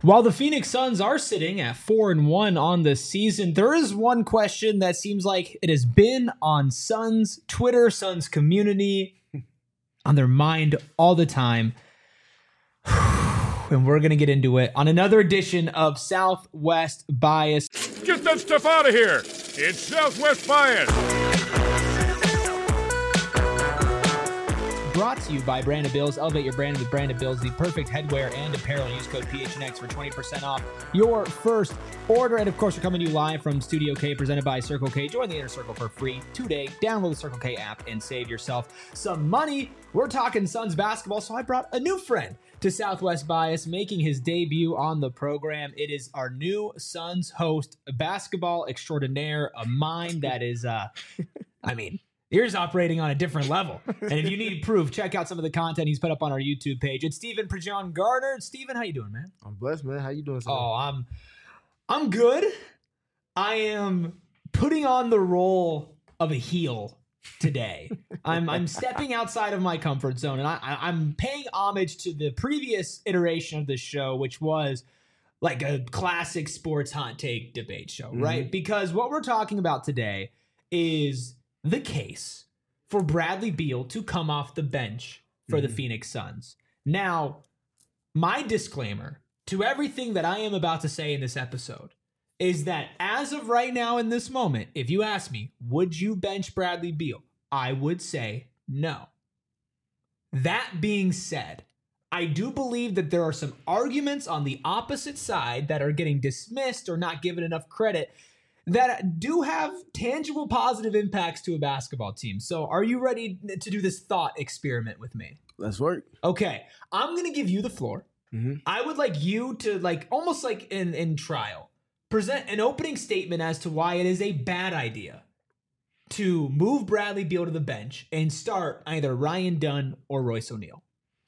While the Phoenix Suns are sitting at 4-1 on the season, there is one question that seems like it has been on Suns Twitter, Suns community, on their mind all the time. And we're going to get into it on another edition of Southwest Bias. Get that stuff out of here. It's Southwest Bias. Brought to you by Branded Bills. Elevate your brand with Branded Bills, the perfect headwear and apparel. Use code PHNX for 20% off your first order. And of course, we're coming to you live from Studio K, presented by Circle K. Join the Inner Circle for free today. Download the Circle K app and save yourself some money. We're talking Suns basketball, so I brought a new friend to Southwest Bias, making his debut on the program. It is our new Suns host, a basketball extraordinaire, a mind that is, Ears operating on a different level. And if you need proof, check out some of the content he's put up on our YouTube page. It's Stephen Prejean Garner. Stephen, how you doing, man? I'm blessed, man. How you doing, sir? Oh, I'm good. I am putting on the role of a heel today. I'm stepping outside of my comfort zone, and I'm paying homage to the previous iteration of the show, which was like a classic sports hot take debate show, right? Because what we're talking about today is the case for Bradley Beal to come off the bench for the Phoenix Suns. Now, my disclaimer to everything that I am about to say in this episode is that as of right now in this moment, if you ask me, would you bench Bradley Beal? I would say no. That being said, I do believe that there are some arguments on the opposite side that are getting dismissed or not given enough credit that do have tangible positive impacts to a basketball team. So are you ready to do this thought experiment with me? Let's work. Okay. I'm going to give you the floor. I would like you to almost like in trial, present an opening statement as to why it is a bad idea to move Bradley Beal to the bench and start either Ryan Dunn or Royce O'Neal.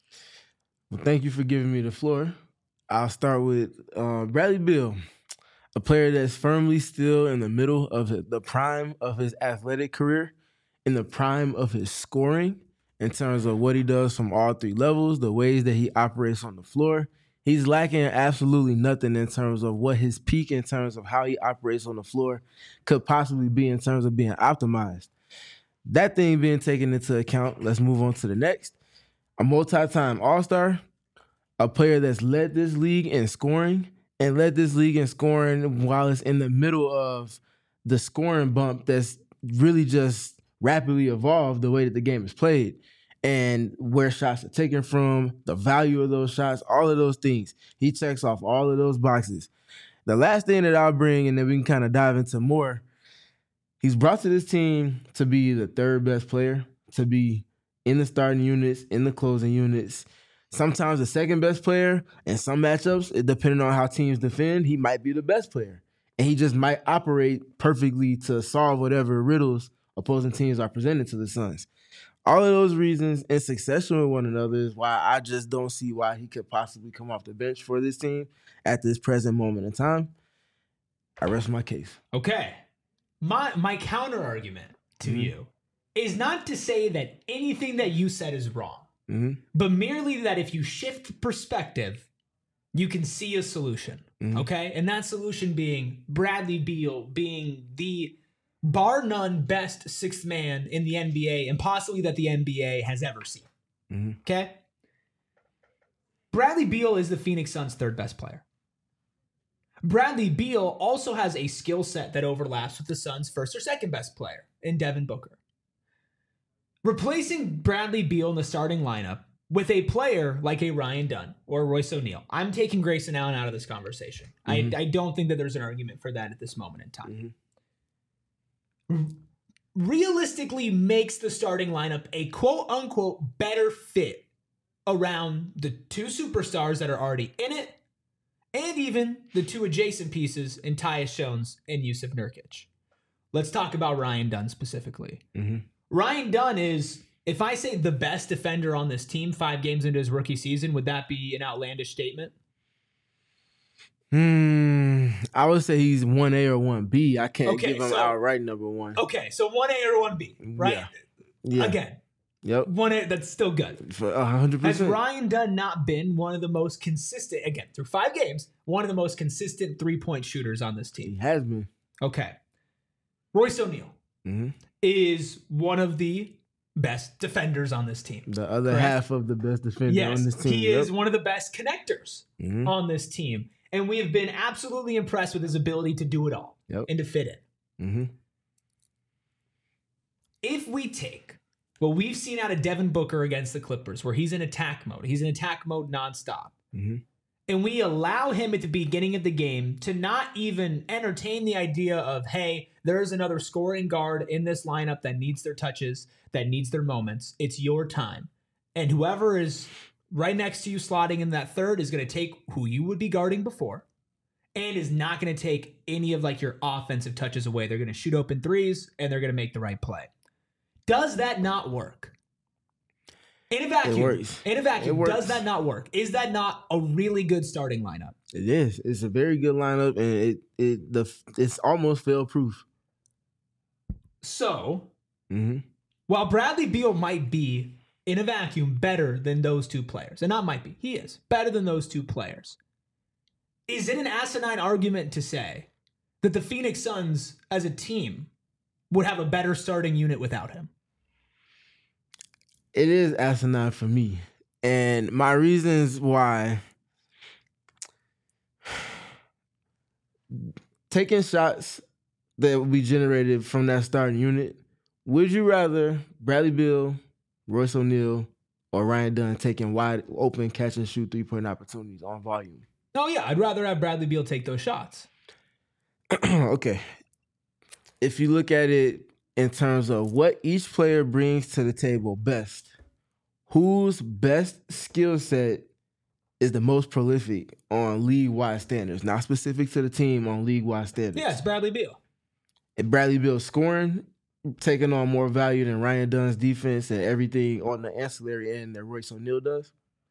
Well, thank you for giving me the floor. I'll start with Bradley Beal. A player that's firmly still in the middle of the prime of his athletic career, in the prime of his scoring, in terms of what he does from all three levels, the ways that he operates on the floor. He's lacking absolutely nothing in terms of what his peak, in terms of how he operates on the floor, could possibly be in terms of being optimized. That thing being taken into account, let's move on to the next. A multi-time All-Star, a player that's led this league in scoring, and led this league in scoring while it's in the middle of the scoring bump that's really just rapidly evolved the way that the game is played and where shots are taken from, the value of those shots, all of those things. He checks off all of those boxes. The last thing that I'll bring, and then we can kind of dive into more, he's brought to this team to be the third best player, to be in the starting units, in the closing units, sometimes the second best player. In some matchups, depending on how teams defend, he might be the best player. And he just might operate perfectly to solve whatever riddles opposing teams are presenting to the Suns. All of those reasons in succession with one another is why I just don't see why he could possibly come off the bench for this team at this present moment in time. I rest my case. Okay. My counter argument to you is not to say that anything that you said is wrong. But merely that if you shift perspective, you can see a solution, okay? And that solution being Bradley Beal being the bar none best sixth man in the NBA and possibly that the NBA has ever seen, okay? Bradley Beal is the Phoenix Suns' third best player. Bradley Beal also has a skill set that overlaps with the Suns' first or second best player in Devin Booker. Replacing Bradley Beal in the starting lineup with a player like a Ryan Dunn or Royce O'Neal. I'm taking Grayson Allen out of this conversation. I don't think that there's an argument for that at this moment in time. Realistically makes the starting lineup a quote-unquote better fit around the two superstars that are already in it and even the two adjacent pieces in Tyus Jones and Yusuf Nurkic. Let's talk about Ryan Dunn specifically. Ryan Dunn is, if I say the best defender on this team 5 games into his rookie season, would that be an outlandish statement? I would say he's 1A or 1B. I can't give him outright number one. Okay, so 1A or 1B, right? Yeah. Again, Yep. That's still good. For 100%. Has Ryan Dunn not been one of the most consistent, again, through 5 games, one of the most consistent 3-point shooters on this team? He has been. Okay. Royce O'Neal is one of the best defenders on this team. The other correct? half of the best defender on this team. He is one of the best connectors on this team. And we have been absolutely impressed with his ability to do it all and to fit in. If we take what we've seen out of Devin Booker against the Clippers, where he's in attack mode nonstop, and we allow him at the beginning of the game to not even entertain the idea of, hey, there's another scoring guard in this lineup that needs their touches, that needs their moments. It's your time. And whoever is right next to you slotting in that third is going to take who you would be guarding before and is not going to take any of like your offensive touches away. They're going to shoot open threes and they're going to make the right play. Does that not work? In a vacuum, does that not work? Is that not a really good starting lineup? It is. It's a very good lineup, and it's almost fail-proof. So, while Bradley Beal might be, in a vacuum, better than those two players, and not might be, he is better than those two players, is it an asinine argument to say that the Phoenix Suns, as a team, would have a better starting unit without him? It is asinine for me. And my reasons why, taking shots that will be generated from that starting unit, would you rather Bradley Beal, Royce O'Neal, or Ryan Dunn taking wide open catch and shoot 3-point opportunities on volume? Oh yeah, I'd rather have Bradley Beal take those shots. Okay. If you look at it in terms of what each player brings to the table best, whose best skill set is the most prolific on league-wide standards, not specific to the team, on league-wide standards? Yeah, it's Bradley Beal. And Bradley Beal scoring, taking on more value than Ryan Dunn's defense and everything on the ancillary end that Royce O'Neal does?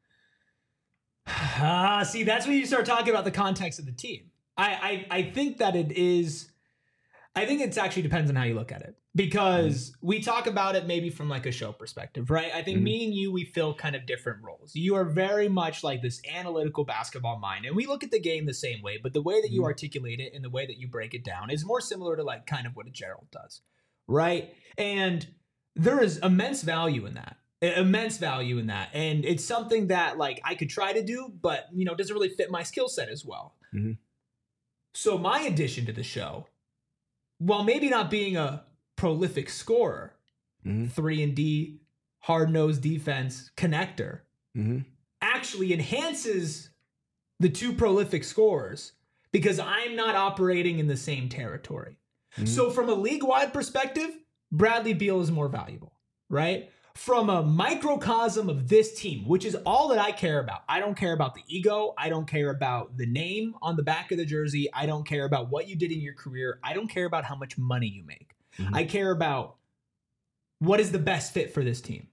See, that's when you start talking about the context of the team. I think that it is... I think it actually depends on how you look at it, because we talk about it maybe from like a show perspective, right? I think me and you, we fill kind of different roles. You are very much like this analytical basketball mind, and we look at the game the same way, but the way that you articulate it and the way that you break it down is more similar to like kind of what a Gerald does, right? And there is immense value in that. And it's something that like I could try to do, but you know, doesn't really fit my skill set as well. So my addition to the show, while maybe not being a prolific scorer, 3-and-D, hard-nosed defense, connector, actually enhances the two prolific scorers because I'm not operating in the same territory. So from a league-wide perspective, Bradley Beal is more valuable, right? From a microcosm of this team, which is all that I care about. I don't care about the ego. I don't care about the name on the back of the jersey. I don't care about what you did in your career. I don't care about how much money you make. I care about what is the best fit for this team.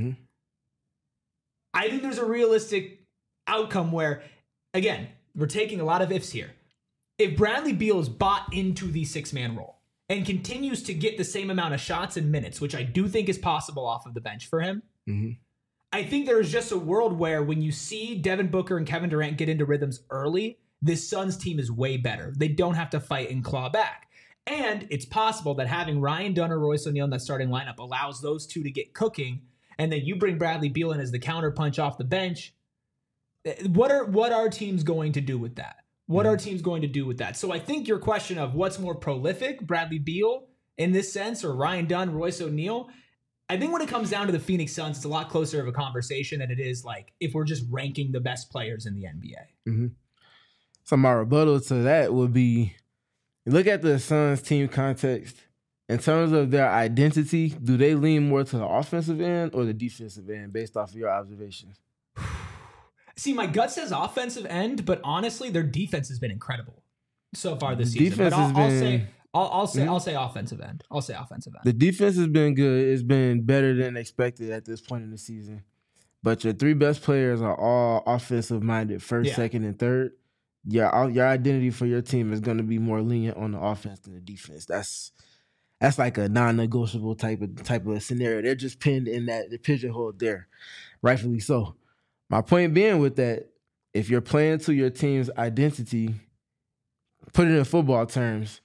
I think there's a realistic outcome where, again, we're taking a lot of ifs here. If Bradley Beal is bought into the 6-man role and continues to get the same amount of shots and minutes, which I do think is possible off of the bench for him, I think there is just a world where when you see Devin Booker and Kevin Durant get into rhythms early, this Suns team is way better. They don't have to fight and claw back. And it's possible that having Ryan Dunn or Royce O'Neal in that starting lineup allows those two to get cooking, and then you bring Bradley Beal in as the counterpunch off the bench. What are teams going to do with that? What are teams going to do with that? So I think your question of what's more prolific, Bradley Beal in this sense, or Ryan Dunn, Royce O'Neal, I think when it comes down to the Phoenix Suns, it's a lot closer of a conversation than it is like if we're just ranking the best players in the NBA. So my rebuttal to that would be, look at the Suns team context. In terms of their identity, do they lean more to the offensive end or the defensive end based off of your observations? See, my gut says offensive end, but honestly, their defense has been incredible so far this season. But I'll say offensive end. I'll say offensive end. The defense has been good. It's been better than expected at this point in the season. But your 3 best players are all offensive minded, first, second, and third. Your identity for your team is going to be more lenient on the offense than the defense. That's like a non-negotiable type of scenario. They're just pinned in that the pigeonhole there, rightfully so. My point being with that, if you're playing to your team's identity, put it in football terms.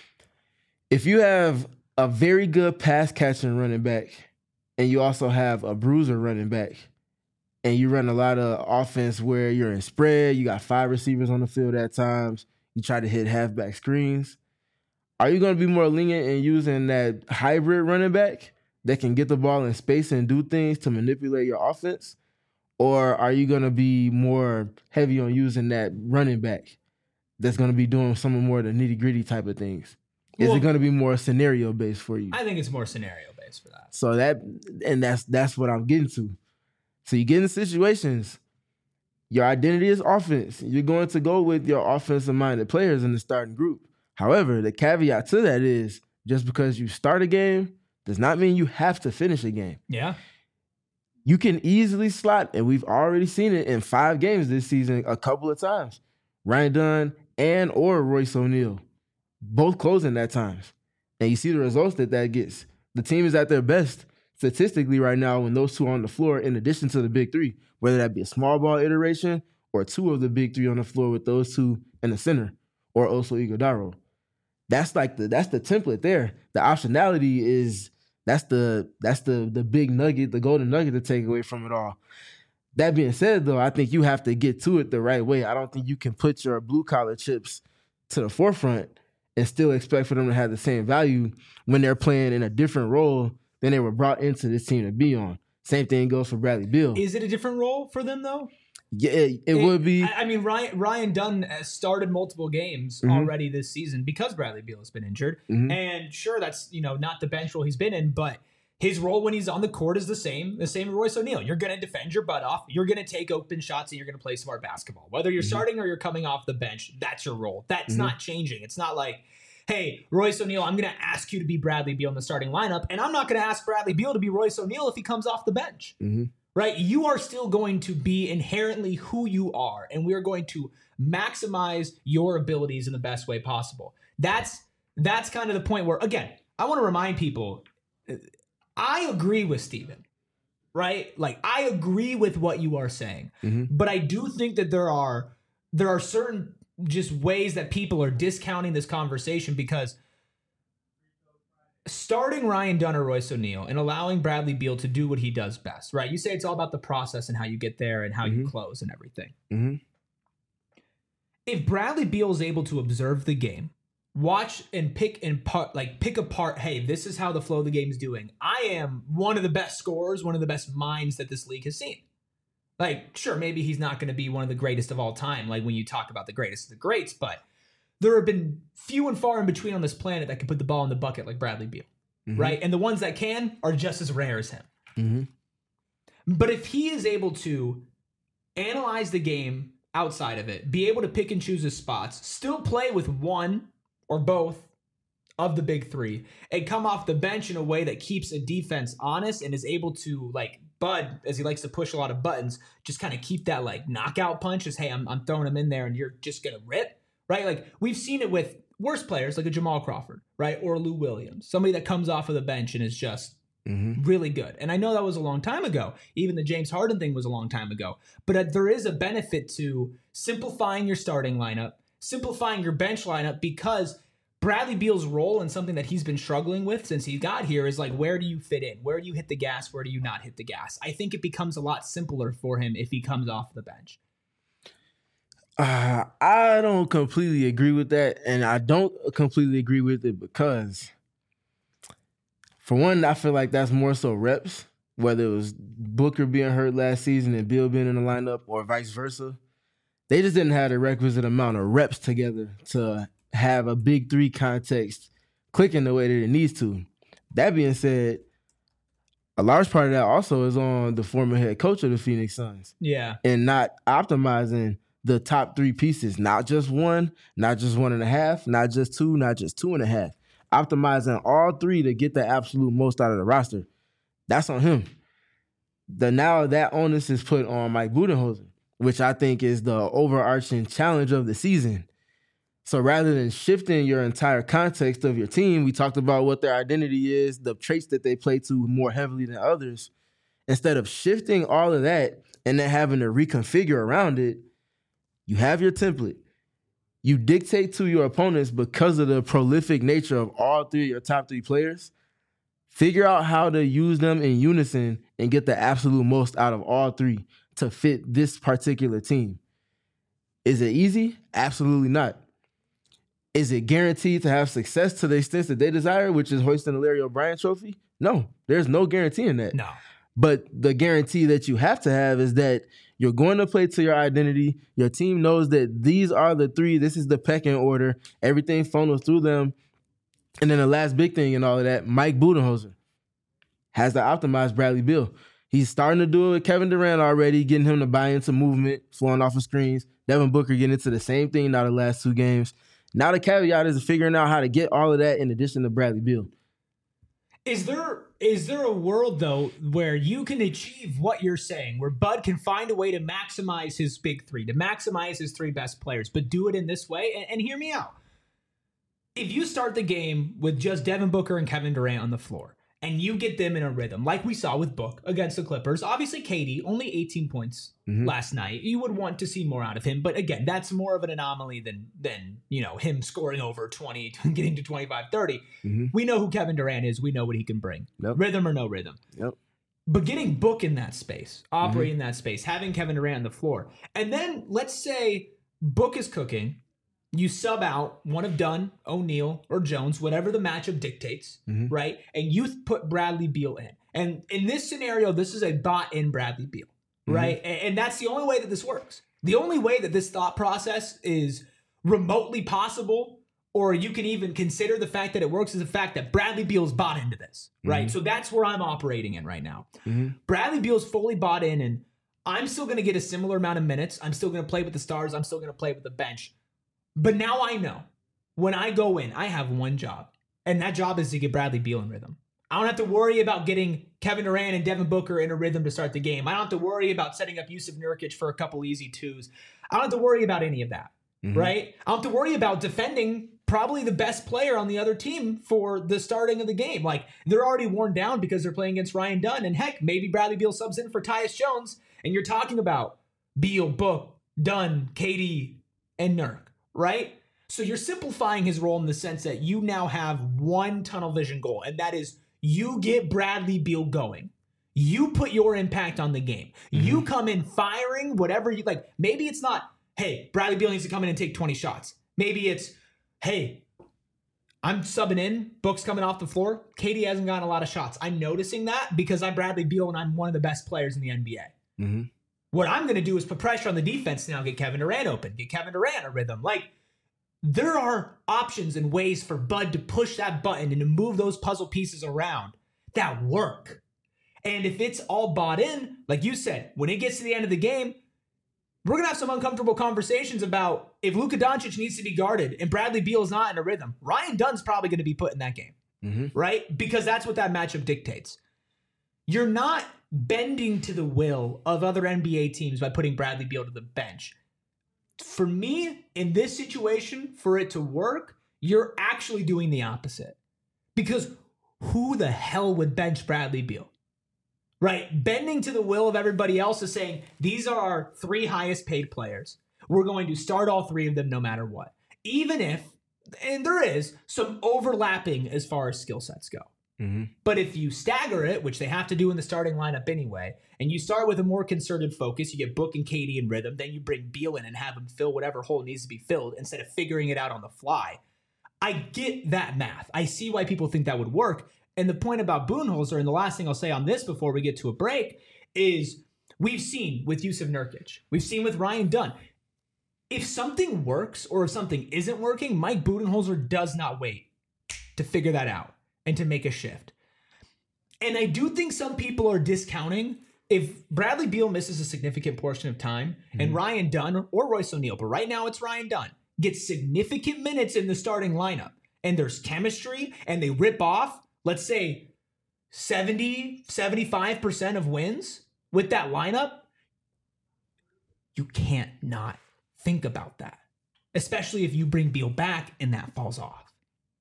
If you have a very good pass catching running back, and you also have a bruiser running back, and you run a lot of offense where you're in spread, you got 5 receivers on the field at times, you try to hit halfback screens, are you going to be more lenient in using that hybrid running back that can get the ball in space and do things to manipulate your offense? Or are you going to be more heavy on using that running back that's going to be doing some more of the nitty-gritty type of things? Is it going to be more scenario-based for you? I think it's more scenario-based for that. So that's what I'm getting to. So you get in situations, your identity is offense. You're going to go with your offensive-minded players in the starting group. However, the caveat to that is just because you start a game does not mean you have to finish a game. Yeah. You can easily slot, and we've already seen it in 5 games this season a couple of times. Ryan Dunn or Royce O'Neal, both closing at times. And you see the results that gets. The team is at their best statistically right now when those two are on the floor in addition to the big 3, whether that be a small ball iteration or 2 of the big 3 on the floor with those 2 in the center or also Iguodaro. That's the template there. The optionality is that's the big nugget, the golden nugget to take away from it all. That being said, though, I think you have to get to it the right way. I don't think you can put your blue collar chips to the forefront and still expect for them to have the same value when they're playing in a different role than they were brought into this team to be on. Same thing goes for Bradley Beal. Is it a different role for them though? Yeah, it would be. I mean, Ryan Dunn has started multiple games already this season because Bradley Beal has been injured. And sure, that's not the bench role he's been in, but his role when he's on the court is the same as Royce O'Neal. You're going to defend your butt off. You're going to take open shots and you're going to play smart basketball. Whether you're starting or you're coming off the bench, that's your role. That's not changing. It's not like, hey, Royce O'Neal, I'm going to ask you to be Bradley Beal in the starting lineup, and I'm not going to ask Bradley Beal to be Royce O'Neal if he comes off the bench. Right? You are still going to be inherently who you are, and we are going to maximize your abilities in the best way possible. That's kind of the point where, again, I want to remind people, I agree with Steven, right? Like, I agree with what you are saying, but I do think that there are certain just ways that people are discounting this conversation because starting Ryan Dunn or Royce O'Neal and allowing Bradley Beal to do what he does best, right? You say it's all about the process and how you get there and how you close and everything. If Bradley Beal is able to observe the game, watch and pick apart, hey, this is how the flow of the game is doing. I am one of the best scorers, one of the best minds that this league has seen. Like, sure, maybe he's not going to be one of the greatest of all time, like when you talk about the greatest of the greats, but there have been few and far in between on this planet that can put the ball in the bucket like Bradley Beal, right? And the ones that can are just as rare as him. But if he is able to analyze the game outside of it, be able to pick and choose his spots, still play with one or both of the big 3, and come off the bench in a way that keeps a defense honest and is able to, like Bud, as he likes to push a lot of buttons, just kind of keep that like knockout punch as, hey, I'm throwing him in there and you're just going to rip. Right? Like, we've seen it with worse players like a Jamal Crawford, right? Or Lou Williams, somebody that comes off of the bench and is just really good. And I know that was a long time ago. Even the James Harden thing was a long time ago. But there is a benefit to simplifying your starting lineup, simplifying your bench lineup, because Bradley Beal's role and something that he's been struggling with since he got here is like, where do you fit in? Where do you hit the gas? Where do you not hit the gas? I think it becomes a lot simpler for him if he comes off the bench. I don't completely agree with that, and I don't completely agree with it because, for one, I feel like that's more so reps, whether it was Booker being hurt last season and Beal being in the lineup or vice versa. They just didn't have the requisite amount of reps together to have a big 3 context clicking the way that it needs to. That being said, a large part of that also is on the former head coach of the Phoenix Suns. Yeah. And not optimizing the top 3 pieces, not just 1, not just 1.5, not just 2, not just 2.5. Optimizing all 3 to get the absolute most out of the roster. That's on him. Now that onus is put on Mike Budenholzer, which I think is the overarching challenge of the season. So rather than shifting your entire context of your team, we talked about what their identity is, the traits that they play to more heavily than others. Instead of shifting all of that and then having to reconfigure around it, you have your template. You dictate to your opponents because of the prolific nature of all three of your top three players. Figure out how to use them in unison and get the absolute most out of all three to fit this particular team. Is it easy? Absolutely not. Is it guaranteed to have success to the extent that they desire, which is hoisting the Larry O'Brien trophy? No, there's no guarantee in that. No. But the guarantee that you have to have is that you're going to play to your identity. Your team knows that these are the three. This is the pecking order. Everything funnels through them. And then the last big thing and all of that, Mike Budenholzer has to optimize Bradley Beal. He's starting to do it with Kevin Durant already, getting him to buy into movement, flowing off of screens. Devin Booker getting into the same thing now the last 2 games. Now the caveat is figuring out how to get all of that in addition to Bradley Beal. Is there a world, though, where you can achieve what you're saying, where Bud can find a way to maximize his big three, to maximize his 3 best players, but do it in this way? And hear me out. If you start the game with just Devin Booker and Kevin Durant on the floor, and you get them in a rhythm, like we saw with Book against the Clippers. Obviously, KD, only 18 points last night. You would want to see more out of him. But again, that's more of an anomaly than him scoring over 20, getting to 25, 30. We know who Kevin Durant is. We know what he can bring. Yep. Rhythm or no rhythm. Yep. But getting Book in that space, operating in that space, having Kevin Durant on the floor. And then let's say Book is cooking. You sub out one of Dunn, O'Neal, or Jones, whatever the matchup dictates, right? And you put Bradley Beal in. And in this scenario, this is a bought-in Bradley Beal, right? And that's the only way that this works. The only way that this thought process is remotely possible, or you can even consider the fact that it works, is the fact that Bradley Beal's bought into this, right? So that's where I'm operating in right now. Bradley Beal's fully bought in, and I'm still going to get a similar amount of minutes. I'm still going to play with the stars. I'm still going to play with the bench. But now I know when I go in, I have one job, and that job is to get Bradley Beal in rhythm. I don't have to worry about getting Kevin Durant and Devin Booker in a rhythm to start the game. I don't have to worry about setting up Jusuf Nurkic for a couple easy 2s. I don't have to worry about any of that, right? I don't have to worry about defending probably the best player on the other team for the starting of the game. Like, they're already worn down because they're playing against Ryan Dunn, and heck, maybe Bradley Beal subs in for Tyus Jones, and you're talking about Beal, Book, Dunn, KD, and Nurk. Right? So you're simplifying his role in the sense that you now have one tunnel vision goal, and that is you get Bradley Beal going. You put your impact on the game. You come in firing whatever you like. Maybe it's not, hey, Bradley Beal needs to come in and take 20 shots. Maybe it's, hey, I'm subbing in. Book's coming off the floor. KD hasn't gotten a lot of shots. I'm noticing that because I'm Bradley Beal and I'm one of the best players in the NBA. What I'm going to do is put pressure on the defense now, get Kevin Durant open, get Kevin Durant a rhythm. Like, there are options and ways for Bud to push that button and to move those puzzle pieces around that work. And if it's all bought in, like you said, when it gets to the end of the game, we're going to have some uncomfortable conversations about if Luka Doncic needs to be guarded and Bradley Beal is not in a rhythm. Ryan Dunn's probably going to be put in that game, right? Because that's what that matchup dictates. You're not bending to the will of other NBA teams by putting Bradley Beal to the bench. For me, in this situation, for it to work, you're actually doing the opposite. Because who the hell would bench Bradley Beal? Right? Bending to the will of everybody else is saying, these are our 3 highest paid players. We're going to start all 3 of them no matter what. Even if, and there is, some overlapping as far as skill sets go. But if you stagger it, which they have to do in the starting lineup anyway, and you start with a more concerted focus, you get Book and KD in rhythm, then you bring Beal in and have him fill whatever hole needs to be filled instead of figuring it out on the fly. I get that math. I see why people think that would work. And the point about Budenholzer, and the last thing I'll say on this before we get to a break, is we've seen with Jusuf Nurkic, we've seen with Ryan Dunn. If something works or if something isn't working, Mike Budenholzer does not wait to figure that out and to make a shift. And I do think some people are discounting if Bradley Beal misses a significant portion of time and Ryan Dunn or Royce O'Neal, but right now it's Ryan Dunn, gets significant minutes in the starting lineup and there's chemistry and they rip off, let's say 70, 75% of wins with that lineup, you can't not think about that. especially if you bring Beal back and that falls off.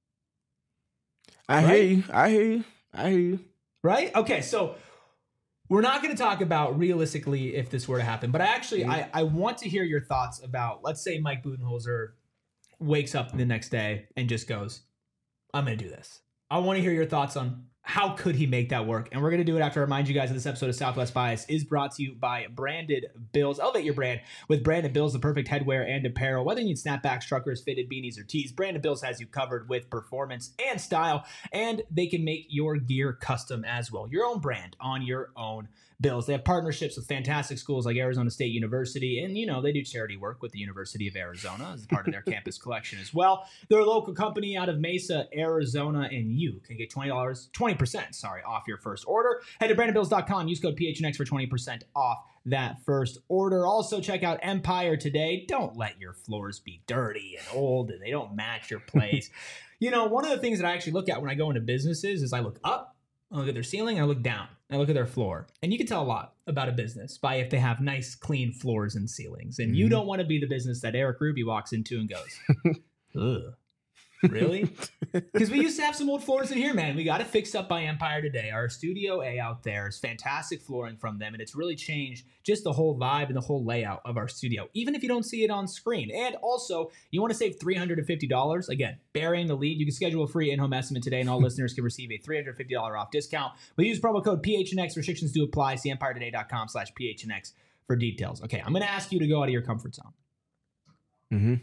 I hear you. Right? Okay, so we're not going to talk about realistically if this were to happen, but I want to hear your thoughts about, let's say Mike Budenholzer wakes up the next day and just goes, I'm going to do this. I want to hear your thoughts on how could he make that work? And we're going to do it after I remind you guys that this episode of Southwest Bias is brought to you by Branded Bills. Elevate your brand with Branded Bills, the perfect headwear and apparel. Whether you need snapbacks, truckers, fitted beanies, or tees, Branded Bills has you covered with performance and style, and they can make your gear custom as well. Your own brand on your own Bills. They have partnerships with fantastic schools like Arizona State University, and, you know, they do charity work with the University of Arizona as part of their campus collection as well. They're a local company out of Mesa, Arizona, and you can get $20% off your first order. Head to brandonbills.com. Use code PHNX for 20% off that first order. Also, check out Empire today. Don't let your floors be dirty and old and they don't match your place. You know, one of the things that I actually look at when I go into businesses is I look up, I look at their ceiling, I look down, I look at their floor. And you can tell a lot about a business by if they have nice, clean floors and ceilings. And you don't want to be the business that Eric Ruby walks into and goes, ugh. Really? Because we used to have some old floors in here, man. We got it fixed up by Empire today. Our Studio A out there is fantastic flooring from them, and it's really changed just the whole vibe and the whole layout of our studio, even if you don't see it on screen. And also, you want to save $350? Again, burying the lead. You can schedule a free in-home estimate today, and all listeners can receive a $350 off discount. But use promo code PHNX. Restrictions do apply. See EmpireToday.com/PHNX for details. Okay, I'm going to ask you to go out of your comfort zone. Mm-hmm.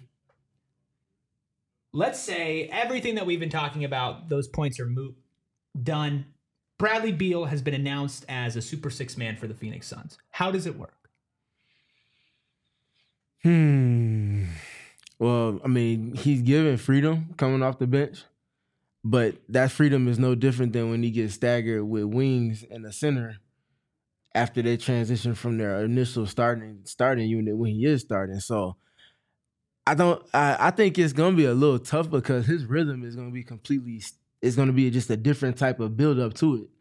Let's say everything that we've been talking about, those points are moot, done. Bradley Beal has been announced as a Super Six man for the Phoenix Suns. How does it work? Well, I mean, he's given freedom coming off the bench, but that freedom is no different than when he gets staggered with wings and a center after they transition from their initial starting unit when he is starting. So I think it's gonna be a little tough because his rhythm is gonna be just a different type of build up to it.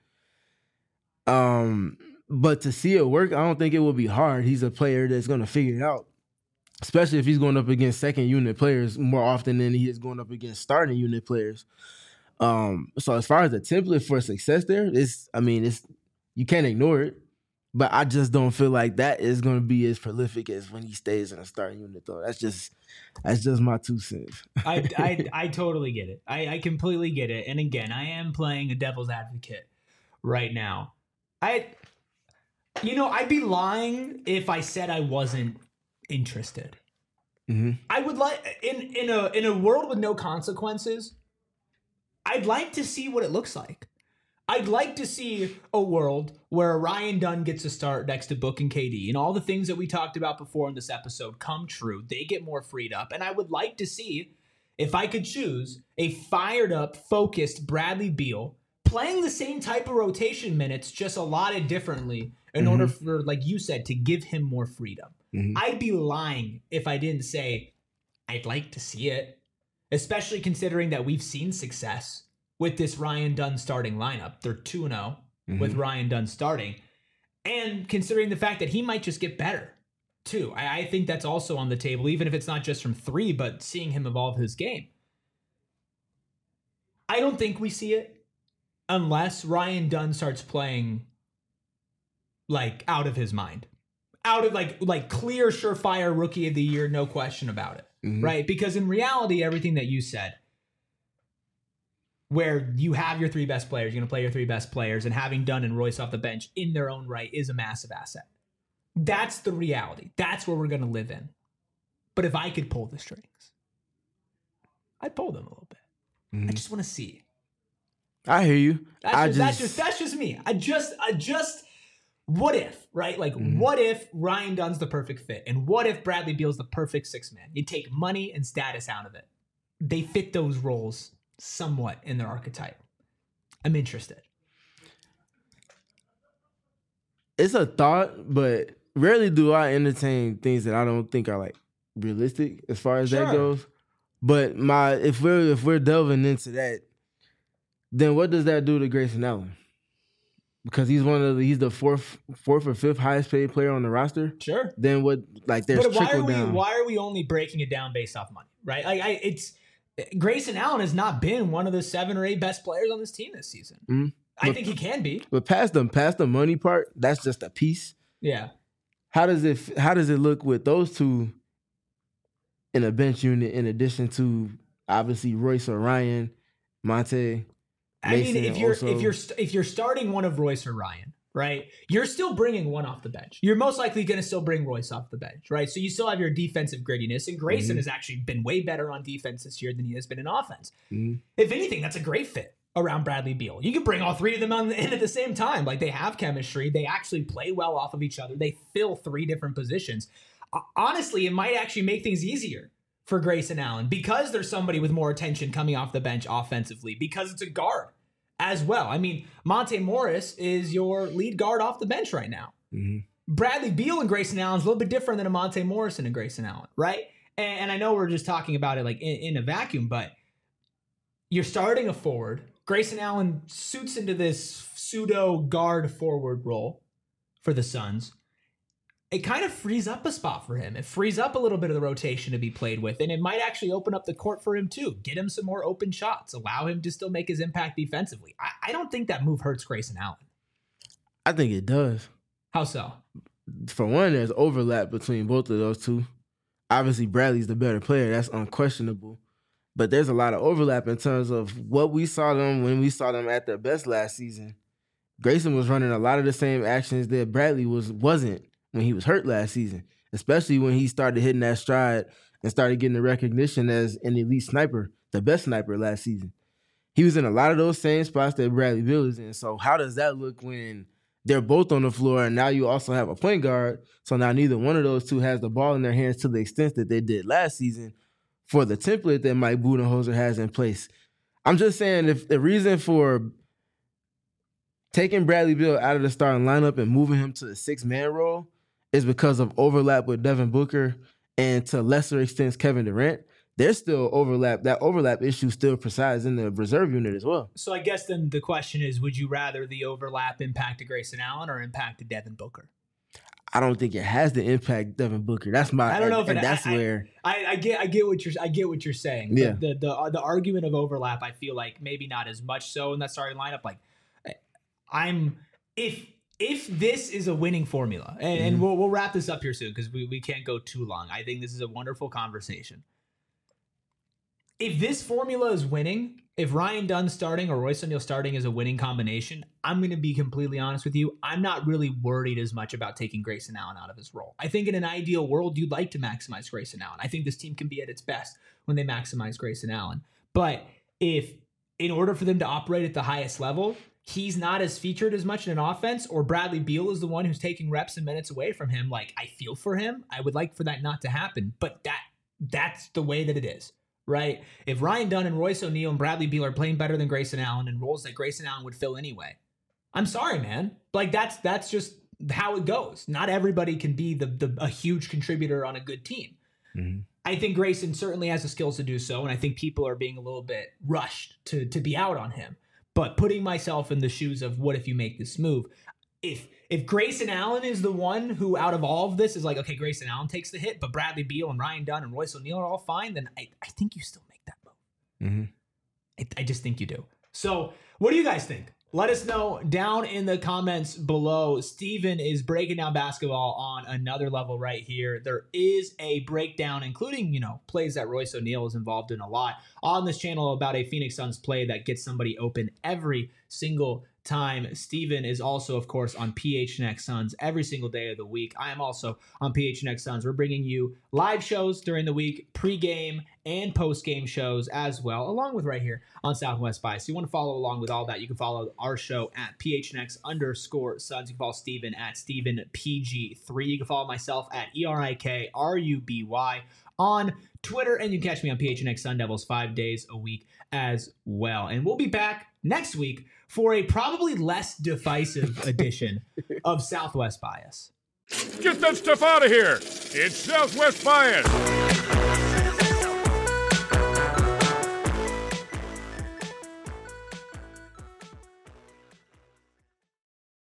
But to see it work, I don't think it will be hard. He's a player that's gonna figure it out, especially if he's going up against second unit players more often than he is going up against starting unit players. So as far as the template for success there, you can't ignore it. But I just don't feel like that is going to be as prolific as when he stays in a starting unit, though. That's just my 2 cents. I totally get it. I completely get it. And again, I am playing a devil's advocate right now. I'd be lying if I said I wasn't interested. Mm-hmm. I would like in a world with no consequences, I'd like to see what it looks like. I'd like to see a world where Ryan Dunn gets a start next to Book and KD and all the things that we talked about before in this episode come true. They get more freed up. And I would like to see, if I could choose, a fired up, focused Bradley Beal playing the same type of rotation minutes, just allotted differently in order for, like you said, to give him more freedom. Mm-hmm. I'd be lying if I didn't say I'd like to see it, especially considering that we've seen success with this Ryan Dunn starting lineup. They're 2-0 with Ryan Dunn starting. And considering the fact that he might just get better, too. I think that's also on the table, even if it's not just from 3, but seeing him evolve his game. I don't think we see it unless Ryan Dunn starts playing, like, out of his mind. Out of, like clear, surefire Rookie of the Year, no question about it. Mm-hmm. Right? Because in reality, everything that you said, where you have your 3 best players, you're going to play your 3 best players, and having Dunn and Royce off the bench in their own right is a massive asset. That's the reality. That's where we're going to live in. But if I could pull the strings, I'd pull them a little bit. Mm-hmm. I just want to see. I hear you. That's just me. I just what if, right? Like, what if Ryan Dunn's the perfect fit? And what if Bradley Beal's the perfect 6-man? You take money and status out of it. They fit those roles somewhat in their archetype. I'm interested. It's a thought, but rarely do I entertain things that I don't think are like realistic as far as that goes. But if we're delving into that, then what does that do to Grayson Allen? because he's the fourth or fifth highest paid player on the roster. Sure. Then what? Like there's trickle down. Why are we only breaking it down based off money? Right? It's Grayson Allen has not been one of the 7 or 8 best players on this team this season. Mm-hmm. I think he can be. But past the money part, that's just a piece. Yeah. How does it look with those two in a bench unit in addition to obviously Royce or Ryan, Monte? Mason, if you're starting one of Royce or Ryan, right, you're still bringing one off the bench. You're most likely going to still bring Royce off the bench, right? So you still have your defensive grittiness, and Grayson has actually been way better on defense this year than he has been in offense. If anything, that's a great fit around Bradley Beal. You can bring all 3 of them in at the same time. Like, they have chemistry. They actually play well off of each other. They fill 3 different positions. Honestly, it might actually make things easier for Grayson Allen because there's somebody with more attention coming off the bench offensively, because it's a guard as well. I mean, Monte Morris is your lead guard off the bench right now. Bradley Beal and Grayson Allen's a little bit different than a Monte Morris and a Grayson Allen, right? And I know we're just talking about it like in a vacuum, but you're starting a forward. Grayson Allen suits into this pseudo guard forward role for the Suns. It kind of frees up a spot for him. It frees up a little bit of the rotation to be played with, and it might actually open up the court for him too. Get him some more open shots. Allow him to still make his impact defensively. I don't think that move hurts Grayson Allen. I think it does. How so? For one, there's overlap between both of those two. Obviously, Bradley's the better player. That's unquestionable. But there's a lot of overlap in terms of what we saw them when we saw them at their best last season. Grayson was running a lot of the same actions that Bradley wasn't when he was hurt last season, especially when he started hitting that stride and started getting the recognition as an elite sniper, the best sniper last season. He was in a lot of those same spots that Bradley Beal is in. So how does that look when they're both on the floor and now you also have a point guard? So now neither one of those two has the ball in their hands to the extent that they did last season for the template that Mike Budenholzer has in place. I'm just saying, if the reason for taking Bradley Beal out of the starting lineup and moving him to the 6-man role is because of overlap with Devin Booker and to lesser extents Kevin Durant, there's still overlap. That overlap issue still presides in the reserve unit as well. So I guess then the question is, would you rather the overlap impact to Grayson Allen or impact to Devin Booker? I don't think it has to impact Devin Booker. That's my. I don't know if I get what you're saying. Yeah. The argument of overlap, I feel like maybe not as much so in that starting lineup. Like, if this is a winning formula, and we'll wrap this up here soon because we can't go too long. I think this is a wonderful conversation. If this formula is winning, if Ryan Dunn starting or Royce O'Neal starting is a winning combination, I'm going to be completely honest with you. I'm not really worried as much about taking Grayson Allen out of his role. I think in an ideal world, you'd like to maximize Grayson Allen. I think this team can be at its best when they maximize Grayson Allen. But if in order for them to operate at the highest level, he's not as featured as much in an offense, or Bradley Beal is the one who's taking reps and minutes away from him, like, I feel for him. I would like for that not to happen, but that's the way that it is. Right? If Ryan Dunn and Royce O'Neal and Bradley Beal are playing better than Grayson Allen in roles that Grayson Allen would fill anyway, I'm sorry, man. Like, that's just how it goes. Not everybody can be a huge contributor on a good team. Mm-hmm. I think Grayson certainly has the skills to do so, and I think people are being a little bit rushed to be out on him. But putting myself in the shoes of what if you make this move, if Grayson Allen is the one who out of all of this is like, okay, Grayson Allen takes the hit, but Bradley Beal and Ryan Dunn and Royce O'Neal are all fine, then I think you still make that move. Mm-hmm. I just think you do. So what do you guys think? Let us know down in the comments below. Steven is breaking down basketball on another level right here. There is a breakdown, including, plays that Royce O'Neal is involved in a lot on this channel about a Phoenix Suns play that gets somebody open every single time. Steven is also, of course, on PHNX Suns every single day of the week. I am also on PHNX Suns. We're bringing you live shows during the week, pregame and postgame shows as well, along with right here on Southwest Bias. So you want to follow along with all that, you can follow our show at PHNX_Suns. You can follow Steven at StevenPG3. You can follow myself at ERIKRUBY on Twitter, and you can catch me on PHNX Sun Devils 5 days a week as well. And we'll be back next week for a probably less divisive edition of Southwest Bias. Get that stuff out of here! It's Southwest Bias!